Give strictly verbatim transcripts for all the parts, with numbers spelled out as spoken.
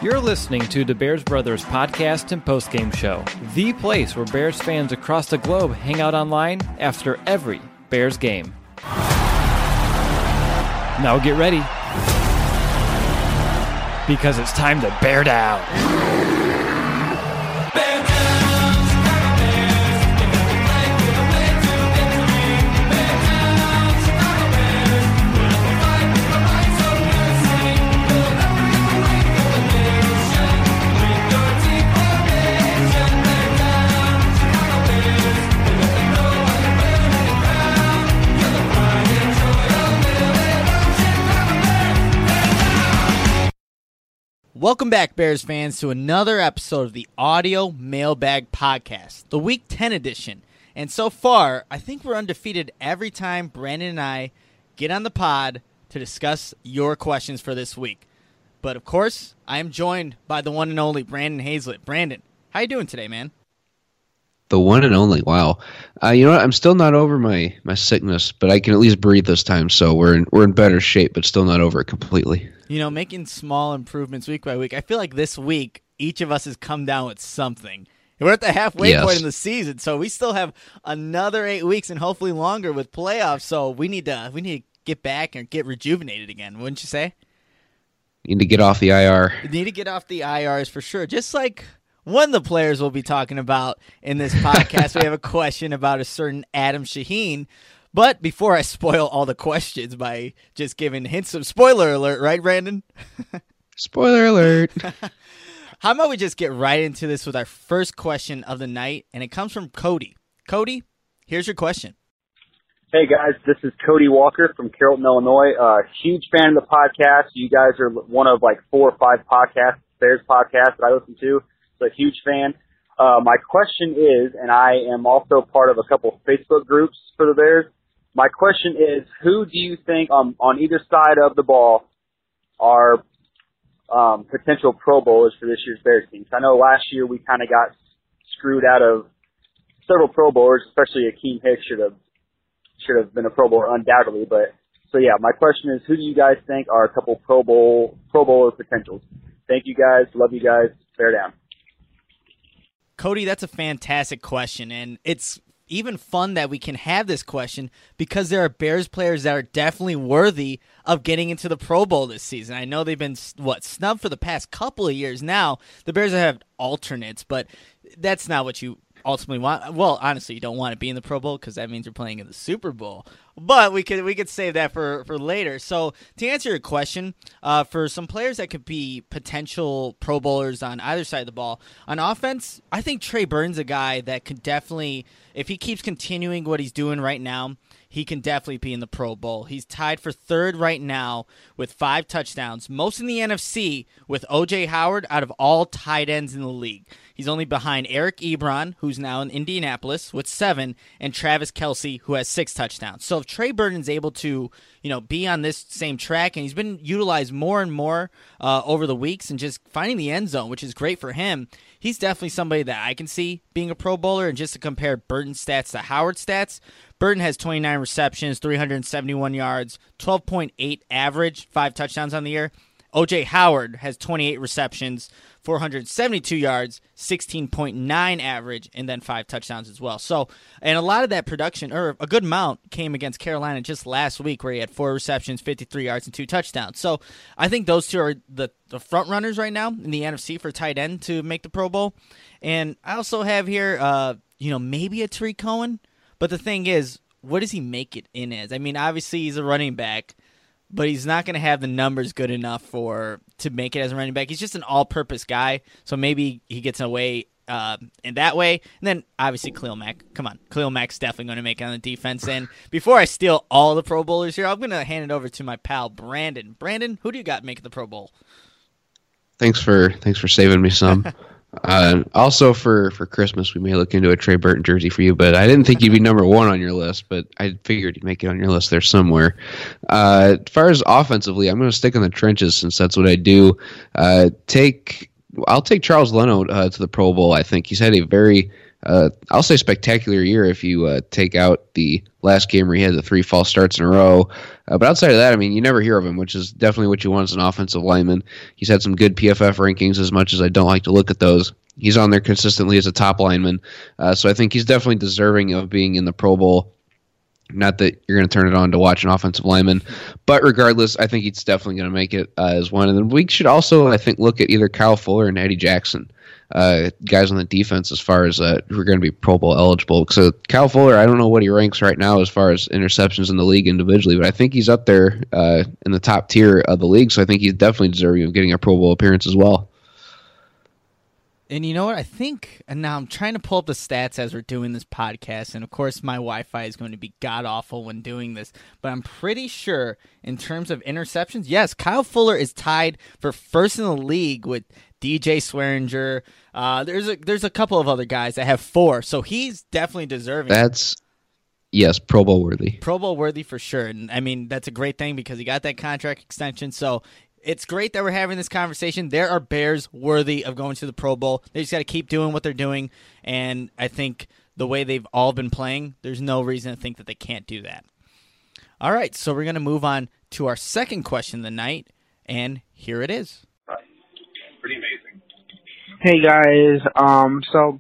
You're listening to the Bears Brothers podcast and postgame show, the place where Bears fans across the globe hang out online after every Bears game. Now get ready, because it's time to bear down. Welcome back, Bears fans, to another episode of the Audio Mailbag Podcast, the Week ten edition. And so far, I think we're undefeated every time Brandon and I get on the pod to discuss your questions for this week. But of course, I am joined by the one and only Brandon Hazlett. Brandon, how you doing today, man? The one and only. Wow. Uh, you know what? I'm still not over my, my sickness, but I can at least breathe this time, so we're in, we're in better shape, but still not over it completely. You know, making small improvements week by week. I feel like this week, each of us has come down with something. We're at the halfway yes. point in the season, so we still have another eight weeks and hopefully longer with playoffs. So we need to we need to get back and get rejuvenated again, wouldn't you say? You need to get off the I R. You need to get off the I Rs for sure. Just like one of the players we'll be talking about in this podcast, we have a question about a certain Adam Shaheen. But before I spoil all the questions by just giving hints of spoiler alert, right, Brandon? Spoiler alert. How about we just get right into this with our first question of the night, and it comes from Cody. Cody, here's your question. Hey, guys, this is Cody Walker from Carrollton, Illinois. Uh, huge fan of the podcast. You guys are one of like four or five podcasts, Bears podcasts that I listen to, so a huge fan. Uh, my question is, and I am also part of a couple Facebook groups for the Bears, my question is, who do you think um, on either side of the ball are um, potential Pro Bowlers for this year's Bears team? I know last year we kind of got screwed out of several Pro Bowlers, especially Akeem Hicks should have should have been a Pro Bowler undoubtedly. But so yeah, my question is, who do you guys think are a couple Pro Bowl Pro Bowler potentials? Thank you guys, love you guys, bear down. Cody, that's a fantastic question, and it's even fun that we can have this question because there are Bears players that are definitely worthy of getting into the Pro Bowl this season. I know they've been, what, snubbed for the past couple of years now. The Bears have alternates, but that's not what you ultimately want. Well, honestly, you don't want to be in the Pro Bowl because that means you're playing in the Super Bowl. But we could we could save that for, for later. So to answer your question, uh, for some players that could be potential Pro Bowlers on either side of the ball, on offense, I think Trey Burton's a guy that could definitely, if he keeps continuing what he's doing right now, he can definitely be in the Pro Bowl. He's tied for third right now with five touchdowns, most in the N F C with O J Howard out of all tight ends in the league. He's only behind Eric Ebron, who's now in Indianapolis, with seven, and Travis Kelce, who has six touchdowns. So if Trey Burton's able to, you know, be on this same track, and he's been utilized more and more uh, over the weeks and just finding the end zone, which is great for him, he's definitely somebody that I can see being a Pro Bowler. And just to compare Burton's stats to Howard's stats, Burton has twenty-nine receptions, three hundred seventy-one yards, twelve point eight average, five touchdowns on the year. O J Howard has twenty-eight receptions, four hundred seventy-two yards, sixteen point nine average, and then five touchdowns as well. So, and a lot of that production, or a good amount, came against Carolina just last week where he had four receptions, fifty-three yards, and two touchdowns. So I think those two are the, the front runners right now in the N F C for tight end to make the Pro Bowl. And I also have here, uh, you know, maybe a Tariq Cohen. But the thing is, what does he make it in as? I mean, obviously he's a running back, but he's not going to have the numbers good enough for to make it as a running back. He's just an all-purpose guy, so maybe he gets away uh, in that way. And then, obviously, Khalil Mack. Come on, Khalil Mack's definitely going to make it on the defense. And before I steal all the Pro Bowlers here, I'm going to hand it over to my pal, Brandon. Brandon, who do you got making the Pro Bowl? Thanks for thanks for saving me some. Uh, also, for, for Christmas, we may look into a Trey Burton jersey for you, but I didn't think you'd be number one on your list, but I figured you'd make it on your list there somewhere. Uh, as far as offensively, I'm going to stick in the trenches since that's what I do. Uh, take I'll take Charles Leno uh, to the Pro Bowl. I think he's had a very uh, I'll say spectacular year if you uh, take out the last game where he had the three false starts in a row. Uh, but outside of that, I mean, you never hear of him, which is definitely what you want as an offensive lineman. He's had some good P F F rankings, as much as I don't like to look at those. He's on there consistently as a top lineman. Uh, so I think he's definitely deserving of being in the Pro Bowl. Not that you're going to turn it on to watch an offensive lineman. But regardless, I think he's definitely going to make it uh, as one. And then we should also, I think, look at either Kyle Fuller and Eddie Jackson. Uh, guys on the defense as far as uh, who are going to be Pro Bowl eligible. So Kyle Fuller, I don't know what he ranks right now as far as interceptions in the league individually, but I think he's up there uh, in the top tier of the league, so I think he's definitely deserving of getting a Pro Bowl appearance as well. And you know what? I think, and now I'm trying to pull up the stats as we're doing this podcast, and of course my Wi-Fi is going to be god-awful when doing this, but I'm pretty sure in terms of interceptions, yes, Kyle Fuller is tied for first in the league with D J Swearinger. Uh, there's a there's a couple of other guys that have four, so he's definitely deserving. That's, yes, Pro Bowl worthy. Pro Bowl worthy for sure. And I mean, that's a great thing because he got that contract extension, so it's great that we're having this conversation. There are Bears worthy of going to the Pro Bowl. They just got to keep doing what they're doing, and I think the way they've all been playing, there's no reason to think that they can't do that. All right, so we're going to move on to our second question of the night, and here it is. Pretty amazing. Hey guys, um, so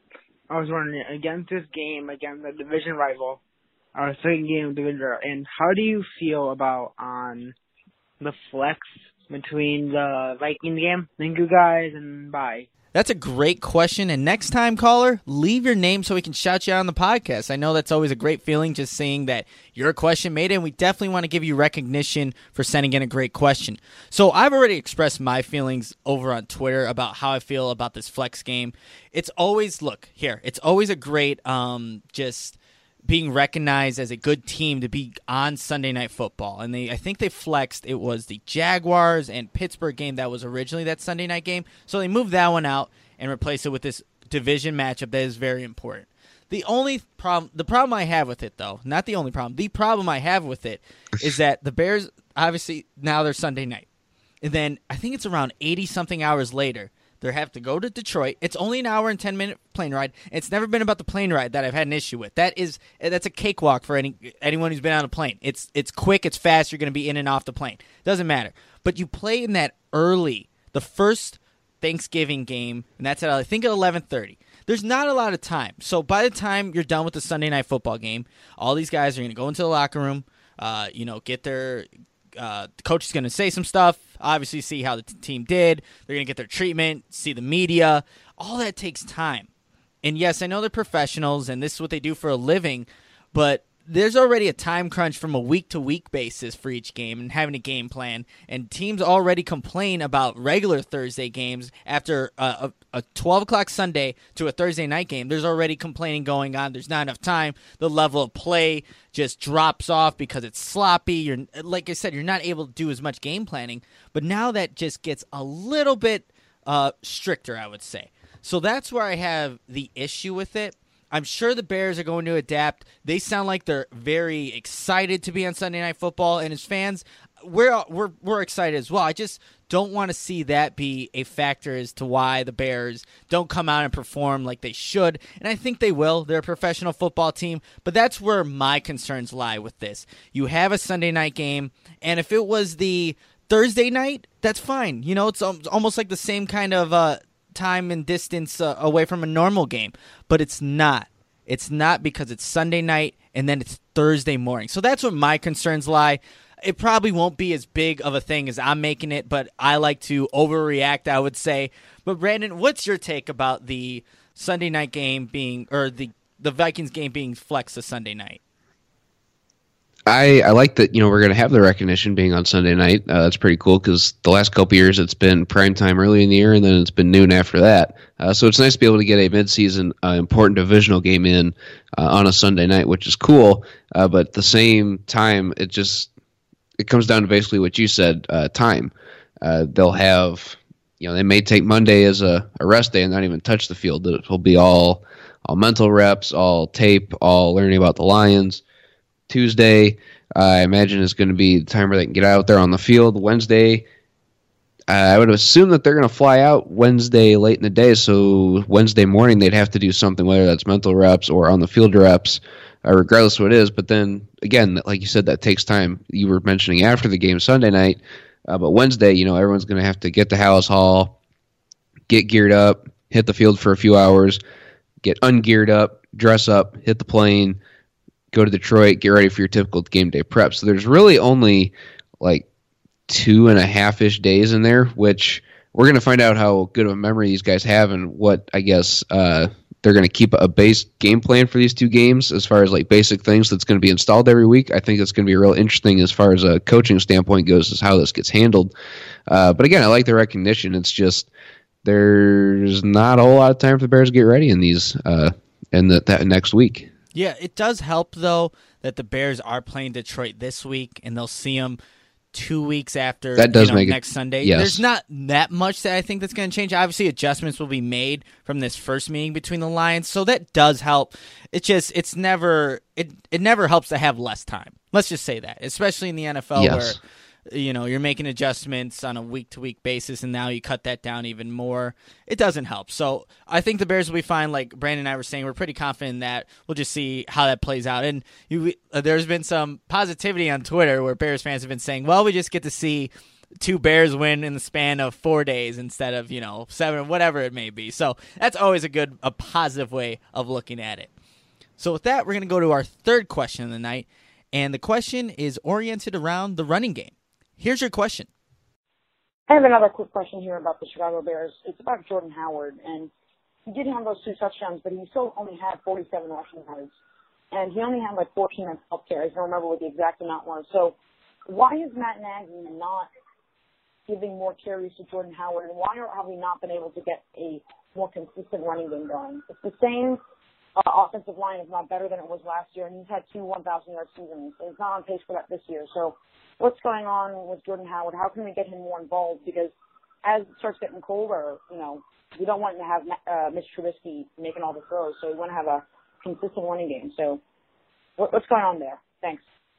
I was wondering, against this game, against the division rival, our second game of division rival, and how do you feel about on the flex between the Vikings game? Thank you guys, and bye. That's a great question, and next time, caller, leave your name so we can shout you out on the podcast. I know that's always a great feeling, just seeing that your question made it, and we definitely want to give you recognition for sending in a great question. So I've already expressed my feelings over on Twitter about how I feel about this flex game. It's always, look, here, it's always a great um, just being recognized as a good team to be on Sunday Night Football. And they, I think they flexed, it was the Jaguars and Pittsburgh game that was originally that Sunday night game. So they moved that one out and replaced it with this division matchup that is very important. The only problem, the problem I have with it, though, not the only problem, the problem I have with it is that the Bears, obviously, now they're Sunday night. And then I think it's around eighty-something hours later, they have to go to Detroit. It's only an hour and ten minute plane ride. It's never been about the plane ride that I've had an issue with. That is that's a cakewalk for any anyone who's been on a plane. It's it's quick, it's fast. You're going to be in and off the plane. Doesn't matter. But you play in that early, the first Thanksgiving game, and that's at I think at eleven thirty. There's not a lot of time. So by the time you're done with the Sunday Night Football game, all these guys are going to go into the locker room, uh, you know, get their Uh, the coach is going to say some stuff, obviously see how the t- team did. They're going to get their treatment, see the media. All that takes time. And yes, I know they're professionals and this is what they do for a living, but there's already a time crunch from a week-to-week basis for each game and having a game plan. And teams already complain about regular Thursday games after a, a, a twelve o'clock Sunday to a Thursday night game. There's already complaining going on. There's not enough time. The level of play just drops off because it's sloppy. You're, like I said, you're not able to do as much game planning. But now that just gets a little bit uh, stricter, I would say. So that's where I have the issue with it. I'm sure the Bears are going to adapt. They sound like they're very excited to be on Sunday Night Football, and as fans, we're we're we're excited as well. I just don't want to see that be a factor as to why the Bears don't come out and perform like they should, and I think they will. They're a professional football team, but that's where my concerns lie with this. You have a Sunday night game, and if it was the Thursday night, that's fine. You know, it's almost like the same kind of uh, time and distance uh, away from a normal game, but it's not. It's not because it's Sunday night and then it's Thursday morning. So that's where my concerns lie. It probably won't be as big of a thing as I'm making it, but I like to overreact, I would say. But Brandon, what's your take about the Sunday night game being, or the, the Vikings game being flexed to Sunday night? I, I like that, you know, we're going to have the recognition being on Sunday night. Uh, that's pretty cool because the last couple years it's been prime time early in the year and then it's been noon after that. Uh, so it's nice to be able to get a midseason uh, important divisional game in uh, on a Sunday night, which is cool. Uh, but at the same time, it just it comes down to basically what you said, uh, time. Uh, they'll have, you know, they may take Monday as a, a rest day and not even touch the field. It will be all all mental reps, all tape, all learning about the Lions. Tuesday, uh, I imagine, is going to be the time where they can get out there on the field. Wednesday, I would assume that they're going to fly out Wednesday late in the day, so Wednesday morning they'd have to do something, whether that's mental reps or on the field reps, uh, regardless of what it is. But then, again, like you said, that takes time. You were mentioning after the game Sunday night, uh, but Wednesday, you know, everyone's going to have to get to Hallis Hall, get geared up, hit the field for a few hours, get ungeared up, dress up, hit the plane, go to Detroit, get ready for your typical game day prep. So there's really only like two and a half-ish days in there, which we're going to find out how good of a memory these guys have and what, I guess, uh, they're going to keep a base game plan for these two games as far as like basic things that's going to be installed every week. I think it's going to be real interesting as far as a coaching standpoint goes, is how this gets handled. Uh, but again, I like the recognition. It's just there's not a whole lot of time for the Bears to get ready in these uh, in the, that next week. Yeah, it does help, though, that the Bears are playing Detroit this week, and they'll see them two weeks after that does you know, make next it, Sunday. Yes. There's not that much that I think that's going to change. Obviously, adjustments will be made from this first meeting between the Lions, so that does help. It's just it's never it it never helps to have less time. Let's just say that, especially in the N F L yes. where you know you're making adjustments on a week to week basis, and now you cut that down even more. It doesn't help. So I think the Bears will be fine. Like Brandon and I were saying, we're pretty confident in that. We'll just see how that plays out. And you, uh, there's been some positivity on Twitter where Bears fans have been saying, "Well, we just get to see two Bears win in the span of four days instead of you know seven, whatever it may be." So that's always a good, a positive way of looking at it. So with that, we're going to go to our third question of the night, and the question is oriented around the running game. Here's your question. I have another quick question here about the Chicago Bears. It's about Jordan Howard, and he did have those two touchdowns, but he still only had forty-seven rushing yards, and he only had like fourteen on twelve carries. I don't remember what the exact amount was. So why is Matt Nagy not giving more carries to Jordan Howard, and why have we not been able to get a more consistent running game going? It's the same uh, offensive line, if not better than it was last year, and he's had two one thousand yard seasons, and he's not on pace for that this year. So what's going on with Jordan Howard? How can we get him more involved? Because as it starts getting colder, you know, we don't want to have uh, Mitch Trubisky making all the throws, so we want to have a consistent running game. So what, what's going on there? Thanks.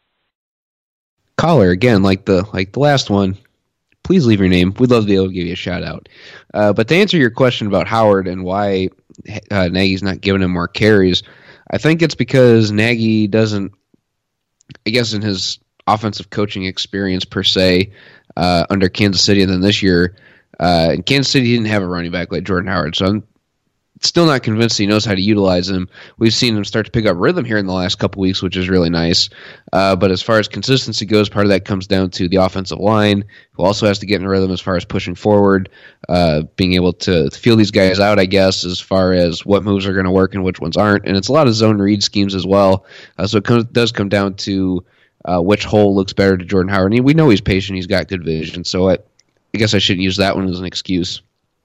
Caller, again, like the like the last one, please leave your name. We'd love to be able to give you a shout-out. Uh, but to answer your question about Howard and why uh, Nagy's not giving him more carries, I think it's because Nagy doesn't, I guess in his offensive coaching experience per se, uh, under Kansas City, and then this year, uh, in Kansas City, he didn't have a running back like Jordan Howard, so I'm still not convinced he knows how to utilize him. We've seen him start to pick up rhythm here in the last couple weeks, which is really nice. Uh, but as far as consistency goes, part of that comes down to the offensive line, who also has to get in rhythm as far as pushing forward, uh, being able to feel these guys out, I guess, as far as what moves are going to work and which ones aren't. And it's a lot of zone read schemes as well. Uh, so it comes, does come down to Uh, which hole looks better to Jordan Howard. And we know he's patient. He's got good vision. So I, I guess I shouldn't use that one as an excuse.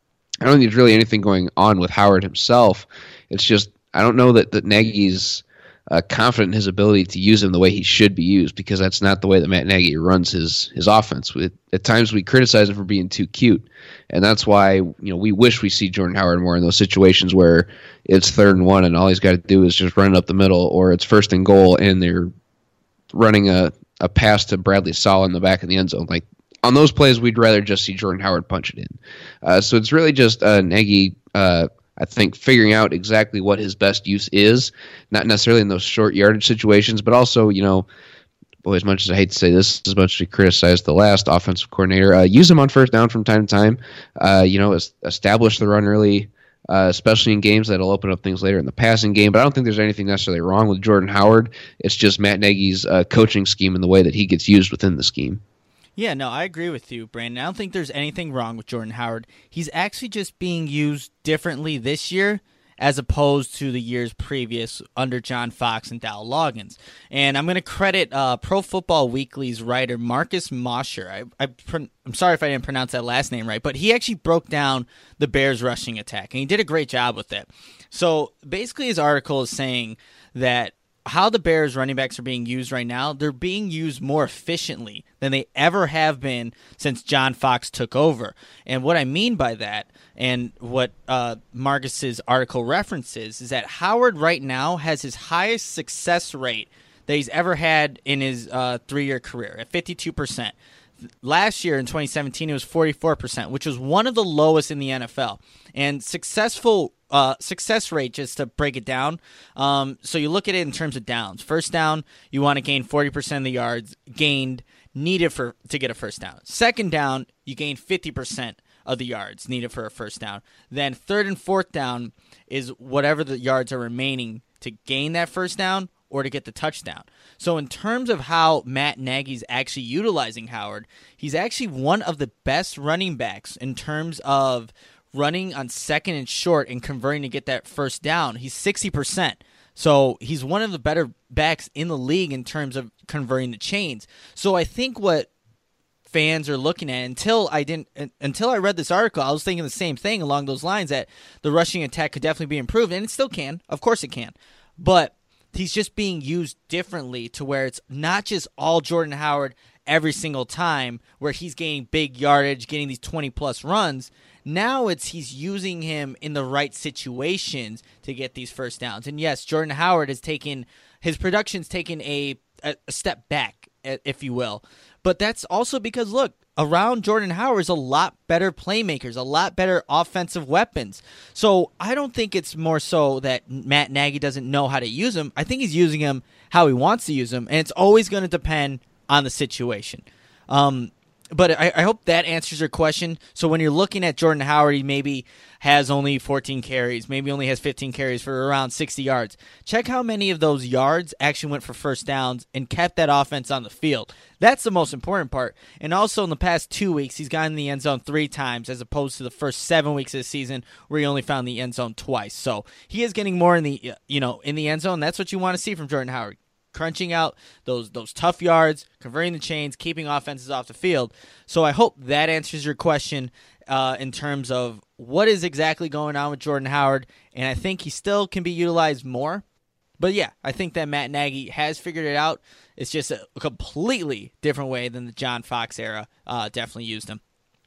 I don't think there's really anything going on with Howard himself. It's just I don't know that, that Nagy's uh, confident in his ability to use him the way he should be used, because that's not the way that Matt Nagy runs his his offense. We, at times we criticize him for being too cute, and that's why you know we wish we see Jordan Howard more in those situations where it's third and one and all he's got to do is just run it up the middle, or it's first and goal and they're running a, a pass to Bradley Sala in the back of the end zone. Like on those plays, we'd rather just see Jordan Howard punch it in. Uh, so it's really just uh, Nagy, uh, I think, figuring out exactly what his best use is, not necessarily in those short yardage situations, but also, you know, boy, as much as I hate to say this, as much as we criticize the last offensive coordinator, uh, use him on first down from time to time. Uh, you know, establish the run early, Uh, especially in games that'll open up things later in the passing game. But I don't think there's anything necessarily wrong with Jordan Howard. It's just Matt Nagy's uh, coaching scheme and the way that he gets used within the scheme. Yeah, no, I agree with you, Brandon. I don't think there's anything wrong with Jordan Howard. He's actually just being used differently this year as opposed to the years previous under John Fox and Dow Loggins. And I'm going to credit uh, Pro Football Weekly's writer Marcus Mosher. I, I, I'm sorry if I didn't pronounce that last name right, but he actually broke down the Bears' rushing attack, and he did a great job with it. So basically his article is saying that how the Bears running backs are being used right now, they're being used more efficiently than they ever have been since John Fox took over. And what I mean by that, and what uh, Marcus's article references, is that Howard right now has his highest success rate that he's ever had in his uh, three-year career at fifty-two percent. Last year in twenty seventeen, it was forty-four percent, which was one of the lowest in the N F L. And successful uh, success rate, just to break it down, um, so you look at it in terms of downs. First down, you want to gain forty percent of the yards gained needed for to get a first down. Second down, you gain fifty percent of the yards needed for a first down. Then third and fourth down is whatever the yards are remaining to gain that first down or to get the touchdown. So in terms of how Matt Nagy's actually utilizing Howard, he's actually one of the best running backs in terms of running on second and short and converting to get that first down. He's sixty percent. So he's one of the better backs in the league in terms of converting the chains. So I think what fans are looking at, until I didn't until I read this article, I was thinking the same thing along those lines, that the rushing attack could definitely be improved, and it still can. Of course it can. But he's just being used differently to where it's not just all Jordan Howard every single time where he's gaining big yardage, getting these twenty-plus runs. Now it's he's using him in the right situations to get these first downs. And yes, Jordan Howard has taken – his production's taken a, a, a step back, if you will. But that's also because, look, around Jordan Howard is a lot better playmakers, a lot better offensive weapons. So I don't think it's more so that Matt Nagy doesn't know how to use him. I think he's using him how he wants to use him, and it's always going to depend on the situation. Um, but I, I hope that answers your question. So when you're looking at Jordan Howard, he maybe has only fourteen carries, maybe only has fifteen carries for around sixty yards. Check how many of those yards actually went for first downs and kept that offense on the field. That's the most important part. And also in the past two weeks, he's gotten in the end zone three times as opposed to the first seven weeks of the season where he only found the end zone twice. So he is getting more in the you know in the end zone. That's what you want to see from Jordan Howard. Crunching out those those tough yards, converting the chains, keeping offenses off the field. So I hope that answers your question uh, in terms of what is exactly going on with Jordan Howard. And I think he still can be utilized more. But yeah, I think that Matt Nagy has figured it out. It's just a completely different way than the John Fox era uh, definitely used him.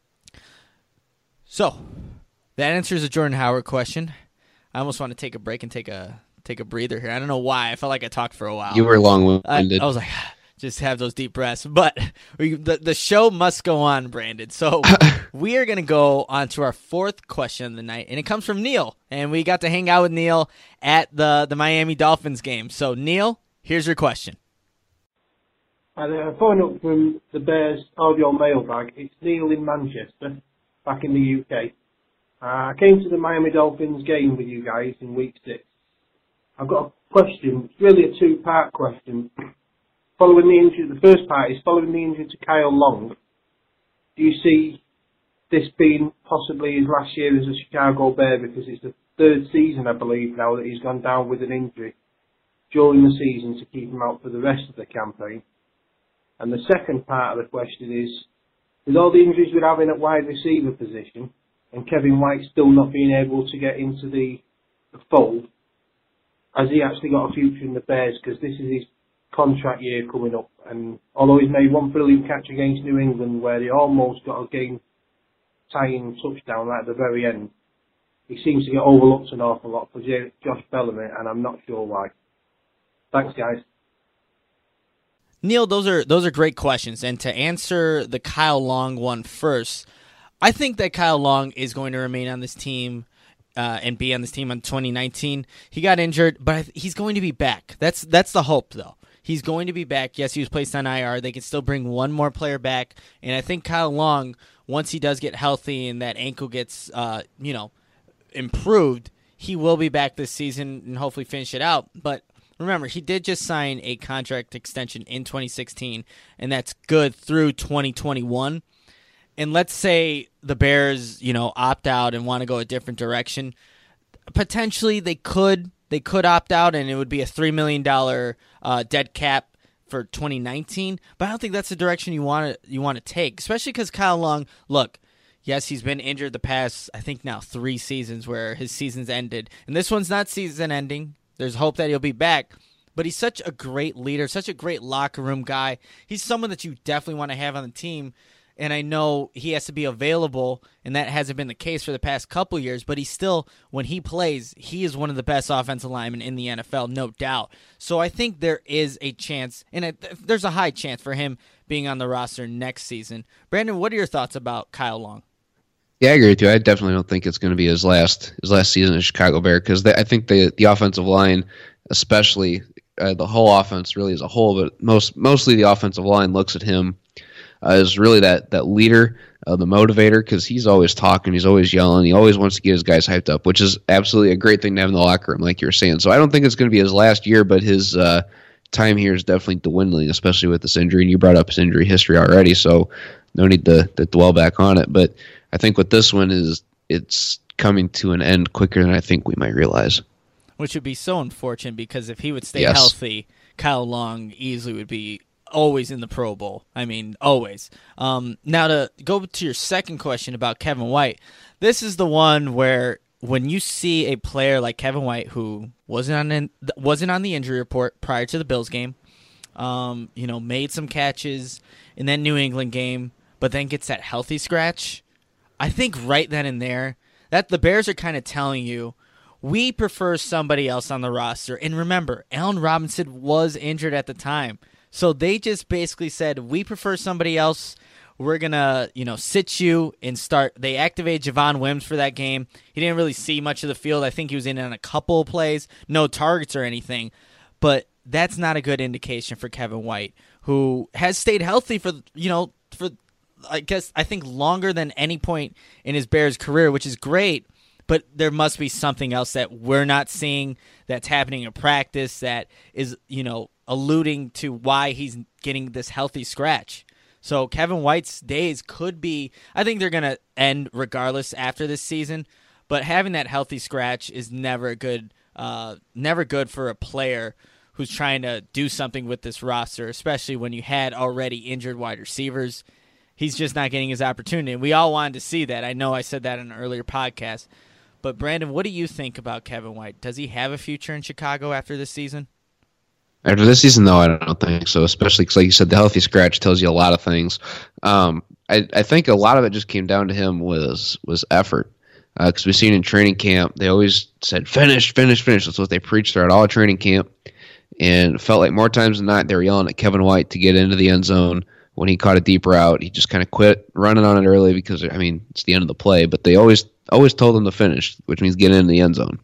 So that answers the Jordan Howard question. I almost want to take a break and take a take a breather here. I don't know why. I felt like I talked for a while. You were long-winded. I, I was like, just have those deep breaths. But we, the, the show must go on, Brandon. So we are going to go on to our fourth question of the night, and it comes from Neil. And we got to hang out with Neil at the, the Miami Dolphins game. So, Neil, here's your question. Hi there. Following up from the Bears audio mailbag, it's Neil in Manchester, back in the U K. Uh, I came to the Miami Dolphins game with you guys in week six. I've got a question. It's really a two-part question. Following the injury, the first part is following the injury to Kyle Long. Do you see this being possibly his last year as a Chicago Bear, because it's the third season, I believe, now that he's gone down with an injury during the season to keep him out for the rest of the campaign? And the second part of the question is, with all the injuries we're having at wide receiver position, and Kevin White still not being able to get into the, the fold, has he actually got a future in the Bears? Because this is his contract year coming up, and although he's made one brilliant catch against New England where he almost got a game-tying touchdown right at the very end, he seems to get overlooked an awful lot for Josh Bellamy, and I'm not sure why. Thanks, guys. Neil, those are those are great questions. And to answer the Kyle Long one first, I think that Kyle Long is going to remain on this team uh, and be on this team in twenty nineteen. He got injured, but he's going to be back. That's that's the hope, though. He's going to be back. Yes, he was placed on I R. They can still bring one more player back. And I think Kyle Long, once he does get healthy and that ankle gets, uh, you know, improved, he will be back this season and hopefully finish it out. But remember, he did just sign a contract extension in twenty sixteen, and that's good through twenty twenty-one. And let's say the Bears, you know, opt out and want to go a different direction. Potentially, they could they could opt out, and it would be a three million dollars uh, dead cap for twenty nineteen. But I don't think that's the direction you want to you want to take, especially because Kyle Long, look, yes, he's been injured the past, I think now three seasons where his season's ended, and this one's not season ending. There's hope that he'll be back. But he's such a great leader, such a great locker room guy. He's someone that you definitely want to have on the team. and I know he has to be available, and that hasn't been the case for the past couple years, but he still, when he plays, he is one of the best offensive linemen in the N F L, no doubt. So I think there is a chance, and it, there's a high chance for him being on the roster next season. Brandon, what are your thoughts about Kyle Long? Yeah, I agree with you. I definitely don't think it's going to be his last his last season as Chicago Bear, because I think the the offensive line, especially uh, the whole offense, really as a whole, but most mostly the offensive line looks at him uh, as really that that leader, uh, the motivator, because he's always talking, he's always yelling, he always wants to get his guys hyped up, which is absolutely a great thing to have in the locker room, like you were saying. So I don't think it's going to be his last year, but his uh, time here is definitely dwindling, especially with this injury. And you brought up his injury history already, so no need to, to dwell back on it. But I think with this one is it's coming to an end quicker than I think we might realize. Which would be so unfortunate, because if he would stay yes. healthy, Kyle Long easily would be always in the Pro Bowl. I mean, always. Um, now to go to your second question about Kevin White, this is the one where when you see a player like Kevin White, who wasn't on in, wasn't on the injury report prior to the Bills game, um, you know, made some catches in that New England game, but then gets that healthy scratch, I think right then and there, that the Bears are kind of telling you, we prefer somebody else on the roster. And remember, Allen Robinson was injured at the time. So they just basically said, we prefer somebody else. We're going to, you know, sit you and start. They activated Javon Wims for that game. He didn't really see much of the field. I think he was in on a couple of plays, no targets or anything. But that's not a good indication for Kevin White, who has stayed healthy for, you know, for, I guess, I think longer than any point in his Bears career, which is great. But there must be something else that we're not seeing that's happening in practice that is, you know, alluding to why he's getting this healthy scratch. So Kevin White's days could be, I think they're going to end regardless after this season, but having that healthy scratch is never a good, uh, never good for a player who's trying to do something with this roster, especially when you had already injured wide receivers. He's just not getting his opportunity, and we all wanted to see that. I know I said that in an earlier podcast. But, Brandon, what do you think about Kevin White? Does he have a future in Chicago after this season? After this season, no, I don't think so, especially because, like you said, the healthy scratch tells you a lot of things. Um, I, I think a lot of it just came down to him was was effort. Because uh, we've seen in training camp, they always said, finish, finish, finish. That's what they preached throughout all training camp. And it felt like more times than not, they were yelling at Kevin White to get into the end zone. When he caught a deep route, he just kind of quit running on it early because, I mean, it's the end of the play. But they always always told him to finish, which means get in the end zone.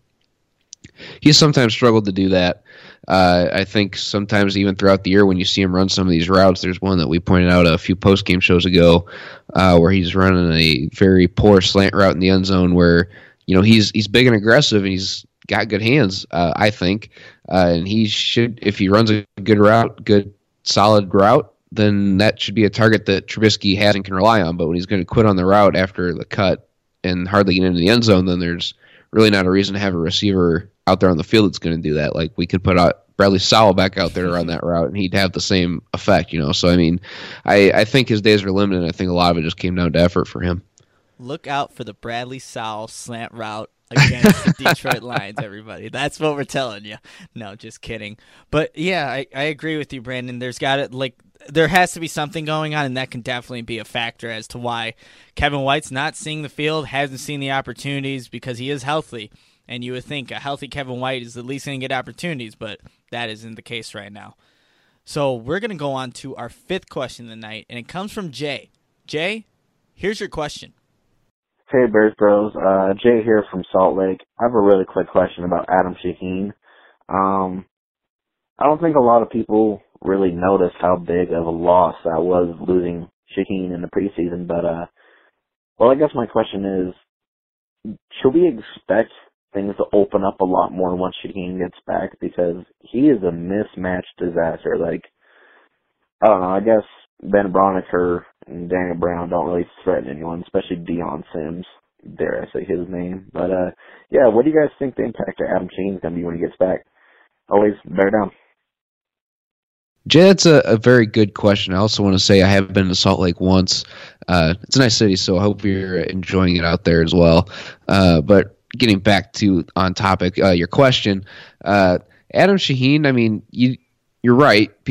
He's sometimes struggled to do that. Uh, I think sometimes even throughout the year when you see him run some of these routes, there's one that we pointed out a few post-game shows ago uh, where he's running a very poor slant route in the end zone where, you know, he's he's big and aggressive and he's got good hands, uh, I think. Uh, and he should, if he runs a good route, good solid route, then that should be a target that Trubisky has and can rely on. But when he's going to quit on the route after the cut and hardly get into the end zone, then there's really not a reason to have a receiver out there on the field that's going to do that. Like, we could put out Bradley Sowell back out there to run that route, and he'd have the same effect, you know. So, I mean, I, I think his days are limited, and I think a lot of it just came down to effort for him. Look out for the Bradley Sowell slant route against the Detroit Lions, everybody. That's what we're telling you. No, just kidding. But, yeah, I, I agree with you, Brandon. There's got to, like, there has to be something going on, and that can definitely be a factor as to why Kevin White's not seeing the field, hasn't seen the opportunities because he is healthy. And you would think a healthy Kevin White is at least going to get opportunities, but that isn't the case right now. So we're going to go on to our fifth question of the night, and it comes from Jay. Jay, here's your question. Hey, Bears Bros. Uh, Jay here from Salt Lake. I have a really quick question about Adam Shaheen. Um, I don't think a lot of people really noticed how big of a loss that was losing Shaheen in the preseason, but, uh, well, I guess my question is, should we expect things to open up a lot more once Shaheen gets back? Because he is a mismatched disaster. Like, I don't know, I guess Ben Broniker and Daniel Brown don't really threaten anyone, especially Deion Sims, dare I say his name. But, uh, yeah, what do you guys think the impact of Adam Shaheen is going to be when he gets back? Always bear down. Jay, that's a, a very good question. I also want to say I have been to Salt Lake once. Uh, it's a nice city, so I hope you're enjoying it out there as well. Uh, but getting back to on topic, uh, your question, uh, Adam Shaheen, I mean, you, you're right. People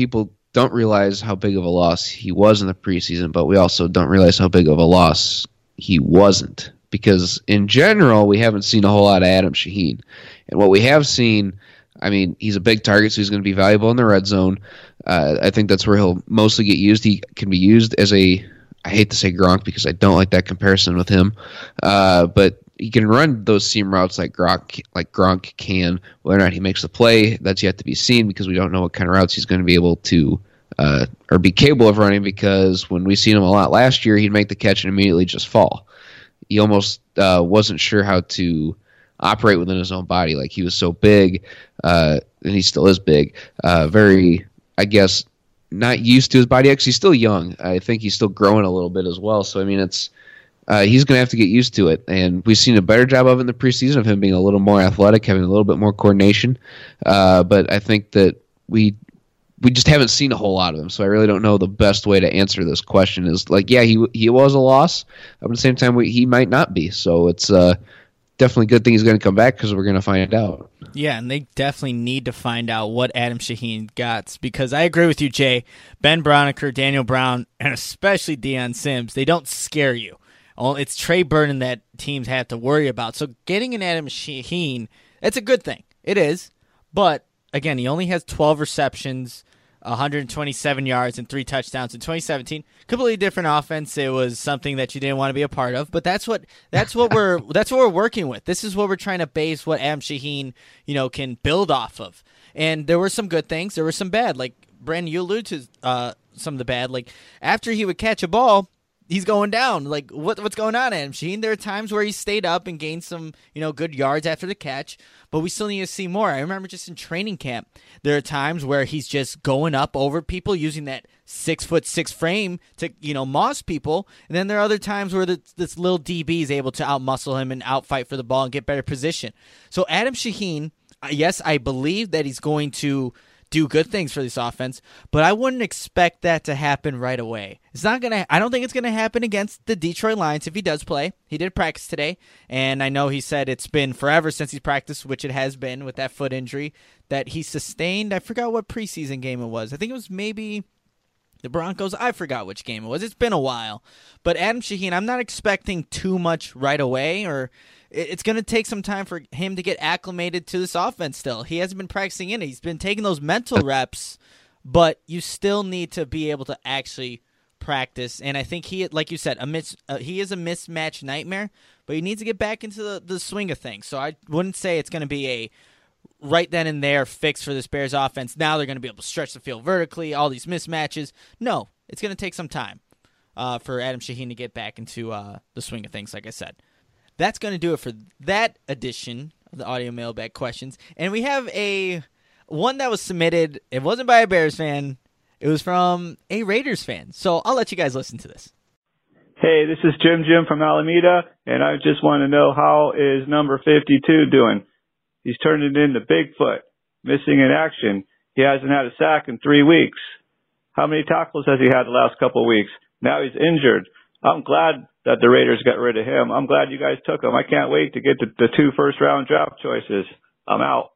don't realize how big of a loss he was in the preseason, but we also don't realize how big of a loss he wasn't. Because in general, we haven't seen a whole lot of Adam Shaheen. And what we have seen, I mean, he's a big target, so he's going to be valuable in the red zone. Uh, I think that's where he'll mostly get used. He can be used as a, I hate to say Gronk because I don't like that comparison with him, uh, but he can run those seam routes like Gronk, like Gronk can. Whether or not he makes the play, that's yet to be seen because we don't know what kind of routes he's going to be able to uh, or be capable of running, because when we seen him a lot last year, he'd make the catch and immediately just fall. He almost uh, wasn't sure how to operate within his own body. Like, he was so big, uh, and he still is big, uh, very, I guess, not used to his body. Actually, he's still young. I think he's still growing a little bit as well. So, I mean, it's uh, he's going to have to get used to it. And we've seen a better job of it in the preseason, of him being a little more athletic, having a little bit more coordination. Uh, but I think that we we just haven't seen a whole lot of him. So I really don't know the best way to answer this question. Is like, yeah, he he was a loss. But at the same time, we, he might not be. So it's uh, definitely a good thing he's going to come back, because we're going to find out. Yeah, and they definitely need to find out what Adam Shaheen got, because I agree with you, Jay. Ben Braunecker, Daniel Brown, and especially Deion Sims, they don't scare you. It's Trey Burton that teams have to worry about. So getting an Adam Shaheen, it's a good thing. It is. But, again, he only has twelve receptions, one hundred twenty-seven yards, and three touchdowns in twenty seventeen. Completely different offense. It was something that you didn't want to be a part of. But that's what that's what we're that's what we're working with. This is what we're trying to base what Adam Shaheen, you know, can build off of. And there were some good things. There were some bad. Like, Brandon, you alluded to uh, some of the bad. Like, after he would catch a ball, he's going down. Like, what what's going on, Adam Shaheen? There are times where he stayed up and gained some, you know, good yards after the catch, but we still need to see more. I remember just in training camp, there are times where he's just going up over people using that six foot six frame to, you know, moss people, and then there are other times where the, this little D B is able to outmuscle him and outfight for the ball and get better position. So Adam Shaheen, yes, I believe that he's going to do good things for this offense, but I wouldn't expect that to happen right away. It's not gonna. I don't think it's gonna happen against the Detroit Lions if he does play. He did practice today, and I know he said it's been forever since he's practiced, which it has been, with that foot injury that he sustained. I forgot what preseason game it was. I think it was maybe the Broncos. I forgot which game it was. It's been a while. But Adam Shaheen, I'm not expecting too much right away, or it's going to take some time for him to get acclimated to this offense still. He hasn't been practicing in it. He's been taking those mental reps, but you still need to be able to actually practice. And I think he, like you said, a mis- uh, he is a mismatch nightmare, but he needs to get back into the, the swing of things. So I wouldn't say it's going to be a right then and there fix for this Bears offense. Now they're going to be able to stretch the field vertically, all these mismatches. No, it's going to take some time uh, for Adam Shaheen to get back into uh, the swing of things, like I said. That's going to do it for that edition of the Audio Mailbag Questions. And we have a one that was submitted. It wasn't by a Bears fan. It was from a Raiders fan. So I'll let you guys listen to this. Hey, this is Jim Jim from Alameda, and I just want to know, how is number fifty-two doing? He's turned it into Bigfoot, missing in action. He hasn't had a sack in three weeks. How many tackles has he had the last couple of weeks? Now he's injured. I'm glad that the Raiders got rid of him. I'm glad you guys took him. I can't wait to get the, the two first-round draft choices. I'm out.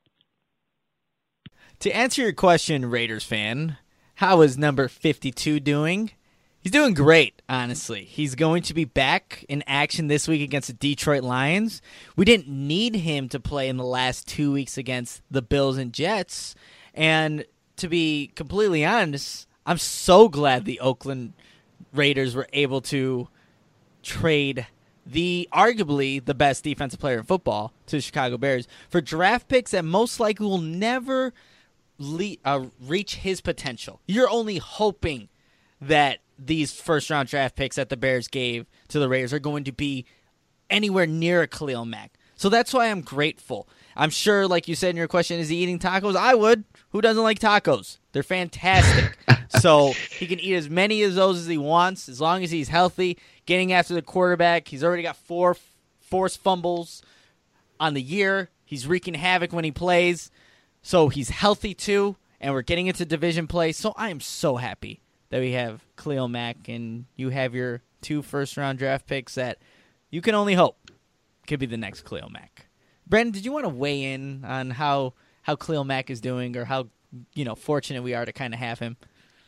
To answer your question, Raiders fan, how is number fifty-two doing? He's doing great, honestly. He's going to be back in action this week against the Detroit Lions. We didn't need him to play in the last two weeks against the Bills and Jets. And to be completely honest, I'm so glad the Oakland Raiders were able to trade the arguably the best defensive player in football to the Chicago Bears for draft picks that most likely will never le- uh, reach his potential. You're only hoping that these first-round draft picks that the Bears gave to the Raiders are going to be anywhere near a Khalil Mack. So that's why I'm grateful. I'm sure, like you said in your question, is he eating tacos? I would. Who doesn't like tacos? They're fantastic. So he can eat as many of those as he wants, as long as he's healthy, getting after the quarterback. He's already got four forced fumbles on the year. He's wreaking havoc when he plays. So he's healthy too, and we're getting into division play. So I am so happy that we have Khalil Mack, and you have your two first-round draft picks that you can only hope could be the next Khalil Mack. Brandon, did you want to weigh in on how how Khalil Mack is doing, or how, you know, fortunate we are to kind of have him?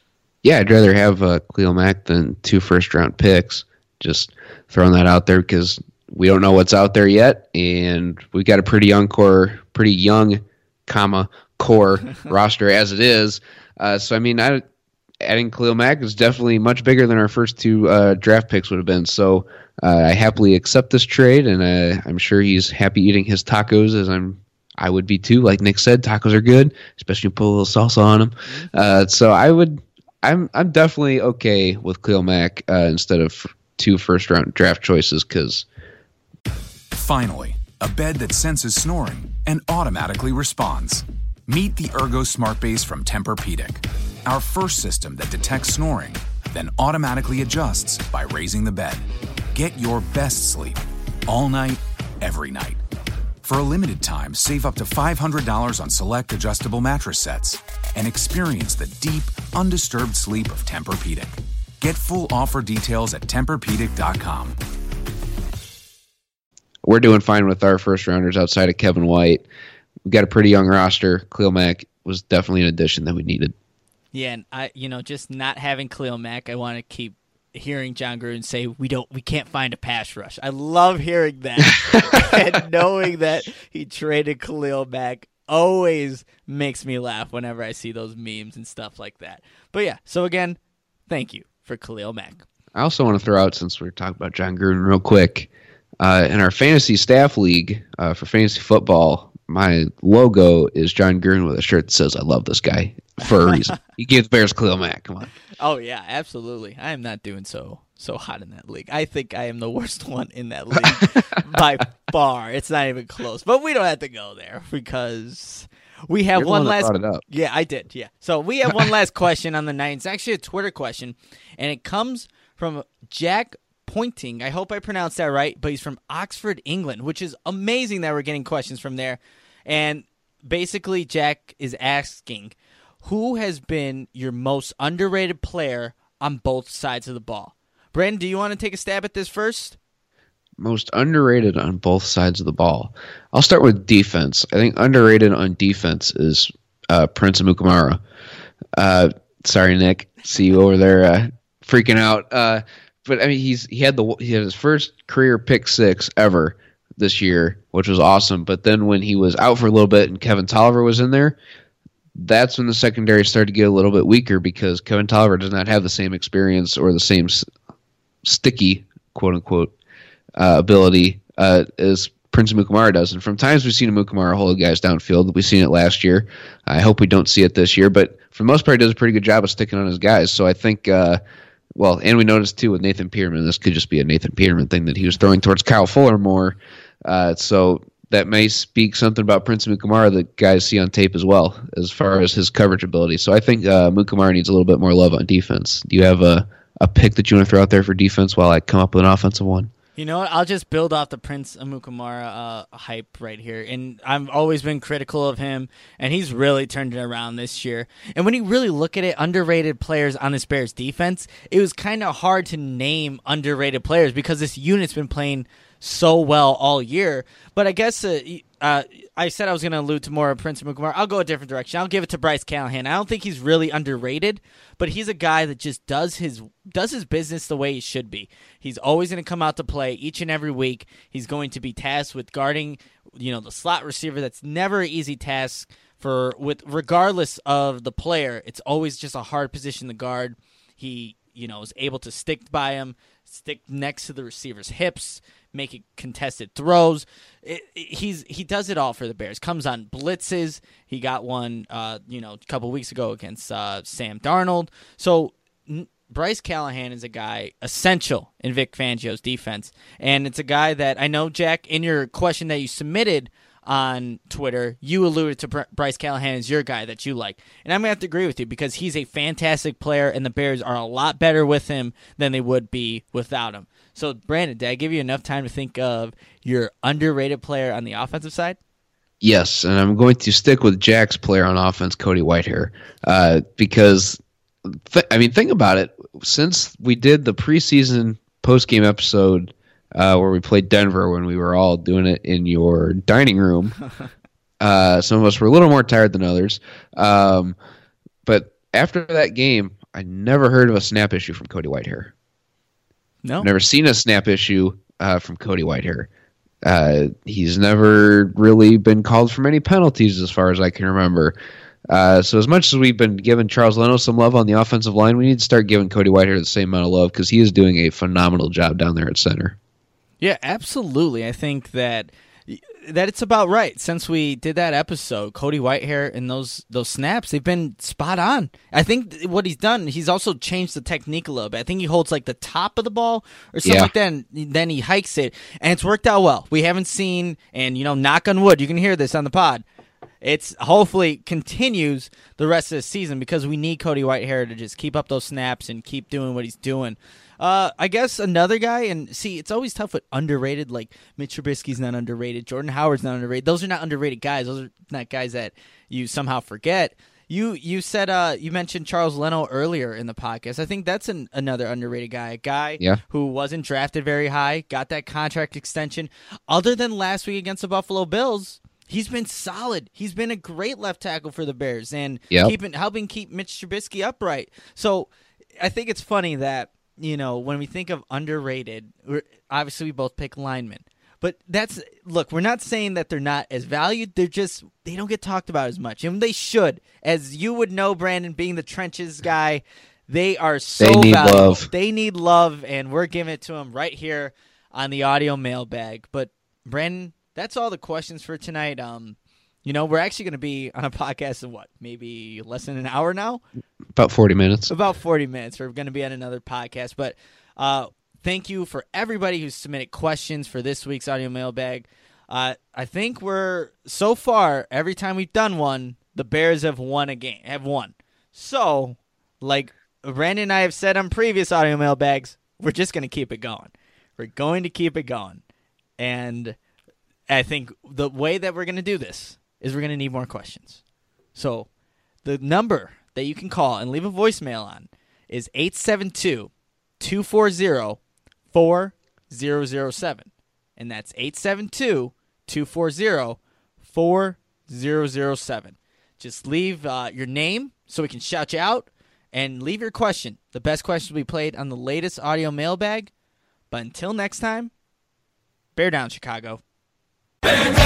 Yeah, I'd rather have uh, Khalil Mack than two first-round picks. Just throwing that out there because we don't know what's out there yet, and we've got a pretty young core, pretty young, comma core roster as it is. Uh, so I mean, I, adding Khalil Mack is definitely much bigger than our first two uh, draft picks would have been. So uh, I happily accept this trade, and uh, I'm sure he's happy eating his tacos as I'm. I would be too. Like Nick said, tacos are good, especially put a little salsa on them. Uh, so I would. I'm I'm definitely okay with Khalil Mack uh, instead of two first round draft choices because. Finally, a bed that senses snoring and automatically responds. Meet the Ergo Smart Base from Tempur-Pedic, our first system that detects snoring, then automatically adjusts by raising the bed. Get your best sleep all night, every night. For a limited time, save up to five hundred dollars on select adjustable mattress sets and experience the deep, undisturbed sleep of Tempur-Pedic. Get full offer details at Tempur Pedic dot com. We're doing fine with our first rounders outside of Kevin White. We've got a pretty young roster. Khalil Mack was definitely an addition that we needed. Yeah, and I, you know, just not having Khalil Mack, I want to keep hearing John Gruden say we don't, we can't find a pass rush. I love hearing that, and knowing that he traded Khalil Mack always makes me laugh whenever I see those memes and stuff like that. But yeah, so again, thank you for Khalil Mack. I also want to throw out, since we're talking about John Gruden real quick, uh, in our fantasy staff league uh, for fantasy football, my logo is John Gruden with a shirt that says, I love this guy, for a reason. He gave the Bears Khalil Mack. Come on. Oh, yeah, absolutely. I am not doing so so hot in that league. I think I am the worst one in that league by far. It's not even close. But we don't have to go there because we have You're the one one that last. brought it up. Yeah, I did. Yeah. So we have one last question on the night. It's actually a Twitter question, and it comes from Jack Pointing. I hope I pronounced that right, but he's from Oxford, England, which is amazing that we're getting questions from there. And basically, Jack is asking, who has been your most underrated player on both sides of the ball? Brandon, do you want to take a stab at this first? Most underrated on both sides of the ball. I'll start with defense. I think underrated on defense is uh, Prince Amukamara. Uh, sorry, Nick. See you over there uh, freaking out. Uh, but I mean, he's he had the he had his first career pick six ever this year, which was awesome. But then when he was out for a little bit and Kevin Tolliver was in there, that's when the secondary started to get a little bit weaker because Kevin Tolliver does not have the same experience or the same s- sticky, quote unquote, uh, ability uh, as Prince Amukamara does. And from times we've seen Amukamara hold guys downfield. We've seen it last year. I hope we don't see it this year. But for the most part, he does a pretty good job of sticking on his guys. So I think, uh, well, and we noticed too with Nathan Peterman, this could just be a Nathan Peterman thing that he was throwing towards Kyle Fuller more. Uh, so that may speak something about Prince Amukamara that guys see on tape as well, as far as his coverage ability. So I think uh, Amukamara needs a little bit more love on defense. Do you have a, a pick that you want to throw out there for defense while I come up with an offensive one? You know what? I'll just build off the Prince Amukamara uh, hype right here. And I've always been critical of him, and he's really turned it around this year. And when you really look at it, underrated players on this Bears defense, it was kind of hard to name underrated players because this unit's been playing so well all year. But I guess uh, uh, I said I was going to allude to more of Prince Amukamara. I'll go a different direction. I'll give it to Bryce Callahan. I don't think he's really underrated, but he's a guy that just does his does his business the way he should be. He's always going to come out to play each and every week. He's going to be tasked with guarding, you know, the slot receiver. That's never an easy task for with regardless of the player. It's always just a hard position to guard. He, you know, is able to stick by him, stick next to the receiver's hips, making contested throws. It, it, he's he does it all for the Bears. Comes on blitzes. He got one, uh, you know, a couple weeks ago against uh, Sam Darnold. So n- Bryce Callahan is a guy essential in Vic Fangio's defense, and it's a guy that I know, Jack, in your question that you submitted on Twitter, you alluded to Br- Bryce Callahan as your guy that you like. And I'm going to have to agree with you because he's a fantastic player, and the Bears are a lot better with him than they would be without him. So, Brandon, did I give you enough time to think of your underrated player on the offensive side? Yes, and I'm going to stick with Jack's player on offense, Cody Whitehair, uh, because, th- I mean, think about it. Since we did the preseason postgame episode Uh, where we played Denver when we were all doing it in your dining room. Uh, some of us were a little more tired than others. Um, but after that game, I never heard of a snap issue from Cody Whitehair. No, never seen a snap issue uh, from Cody Whitehair. Uh, he's never really been called for many penalties as far as I can remember. Uh, so as much as we've been giving Charles Leno some love on the offensive line, we need to start giving Cody Whitehair the same amount of love because he is doing a phenomenal job down there at center. Yeah, absolutely. I think that that it's about right. Since we did that episode, Cody Whitehair and those those snaps, they've been spot on. I think what he's done, he's also changed the technique a little bit. I think he holds like the top of the ball or something Yeah. like that, and then he hikes it, and it's worked out well. We haven't seen, and you know, knock on wood, you can hear this on the pod. It's hopefully continues the rest of the season because we need Cody Whitehair to just keep up those snaps and keep doing what he's doing. Uh, I guess another guy, and see, it's always tough with underrated. Like Mitch Trubisky's not underrated, Jordan Howard's not underrated. Those are not underrated guys. Those are not guys that you somehow forget. You you said uh you mentioned Charles Leno earlier in the podcast. I think that's an, another underrated guy, a guy Yeah. who wasn't drafted very high, got that contract extension. Other than last week against the Buffalo Bills, he's been solid. He's been a great left tackle for the Bears and Yep. keeping helping keep Mitch Trubisky upright. So I think it's funny that, you know, when we think of underrated, we're, obviously we both pick linemen. But that's look, we're not saying that they're not as valued. They're just they don't get talked about as much, and they should. As you would know, Brandon, being the trenches guy, they are so They need valuable. love. They need love, and we're giving it to them right here on the audio mailbag. But Brandon, that's all the questions for tonight. Um, you know, we're actually going to be on a podcast in what, maybe less than an hour now? About forty minutes. About forty minutes. We're going to be on another podcast. But uh, thank you for everybody who submitted questions for this week's audio mailbag. Uh, I think we're, so far, every time we've done one, the Bears have won a game, have won. So, like Brandon and I have said on previous audio mailbags, we're just going to keep it going. We're going to keep it going. And I think the way that we're going to do this is we're going to need more questions. So the number that you can call and leave a voicemail on is eight seven two, two four zero, four zero zero seven. And that's eight seven two, two four zero, four zero zero seven. Just leave uh, your name so we can shout you out and leave your question. The best question will be played on the latest audio mailbag. But until next time, bear down, Chicago. Bear down!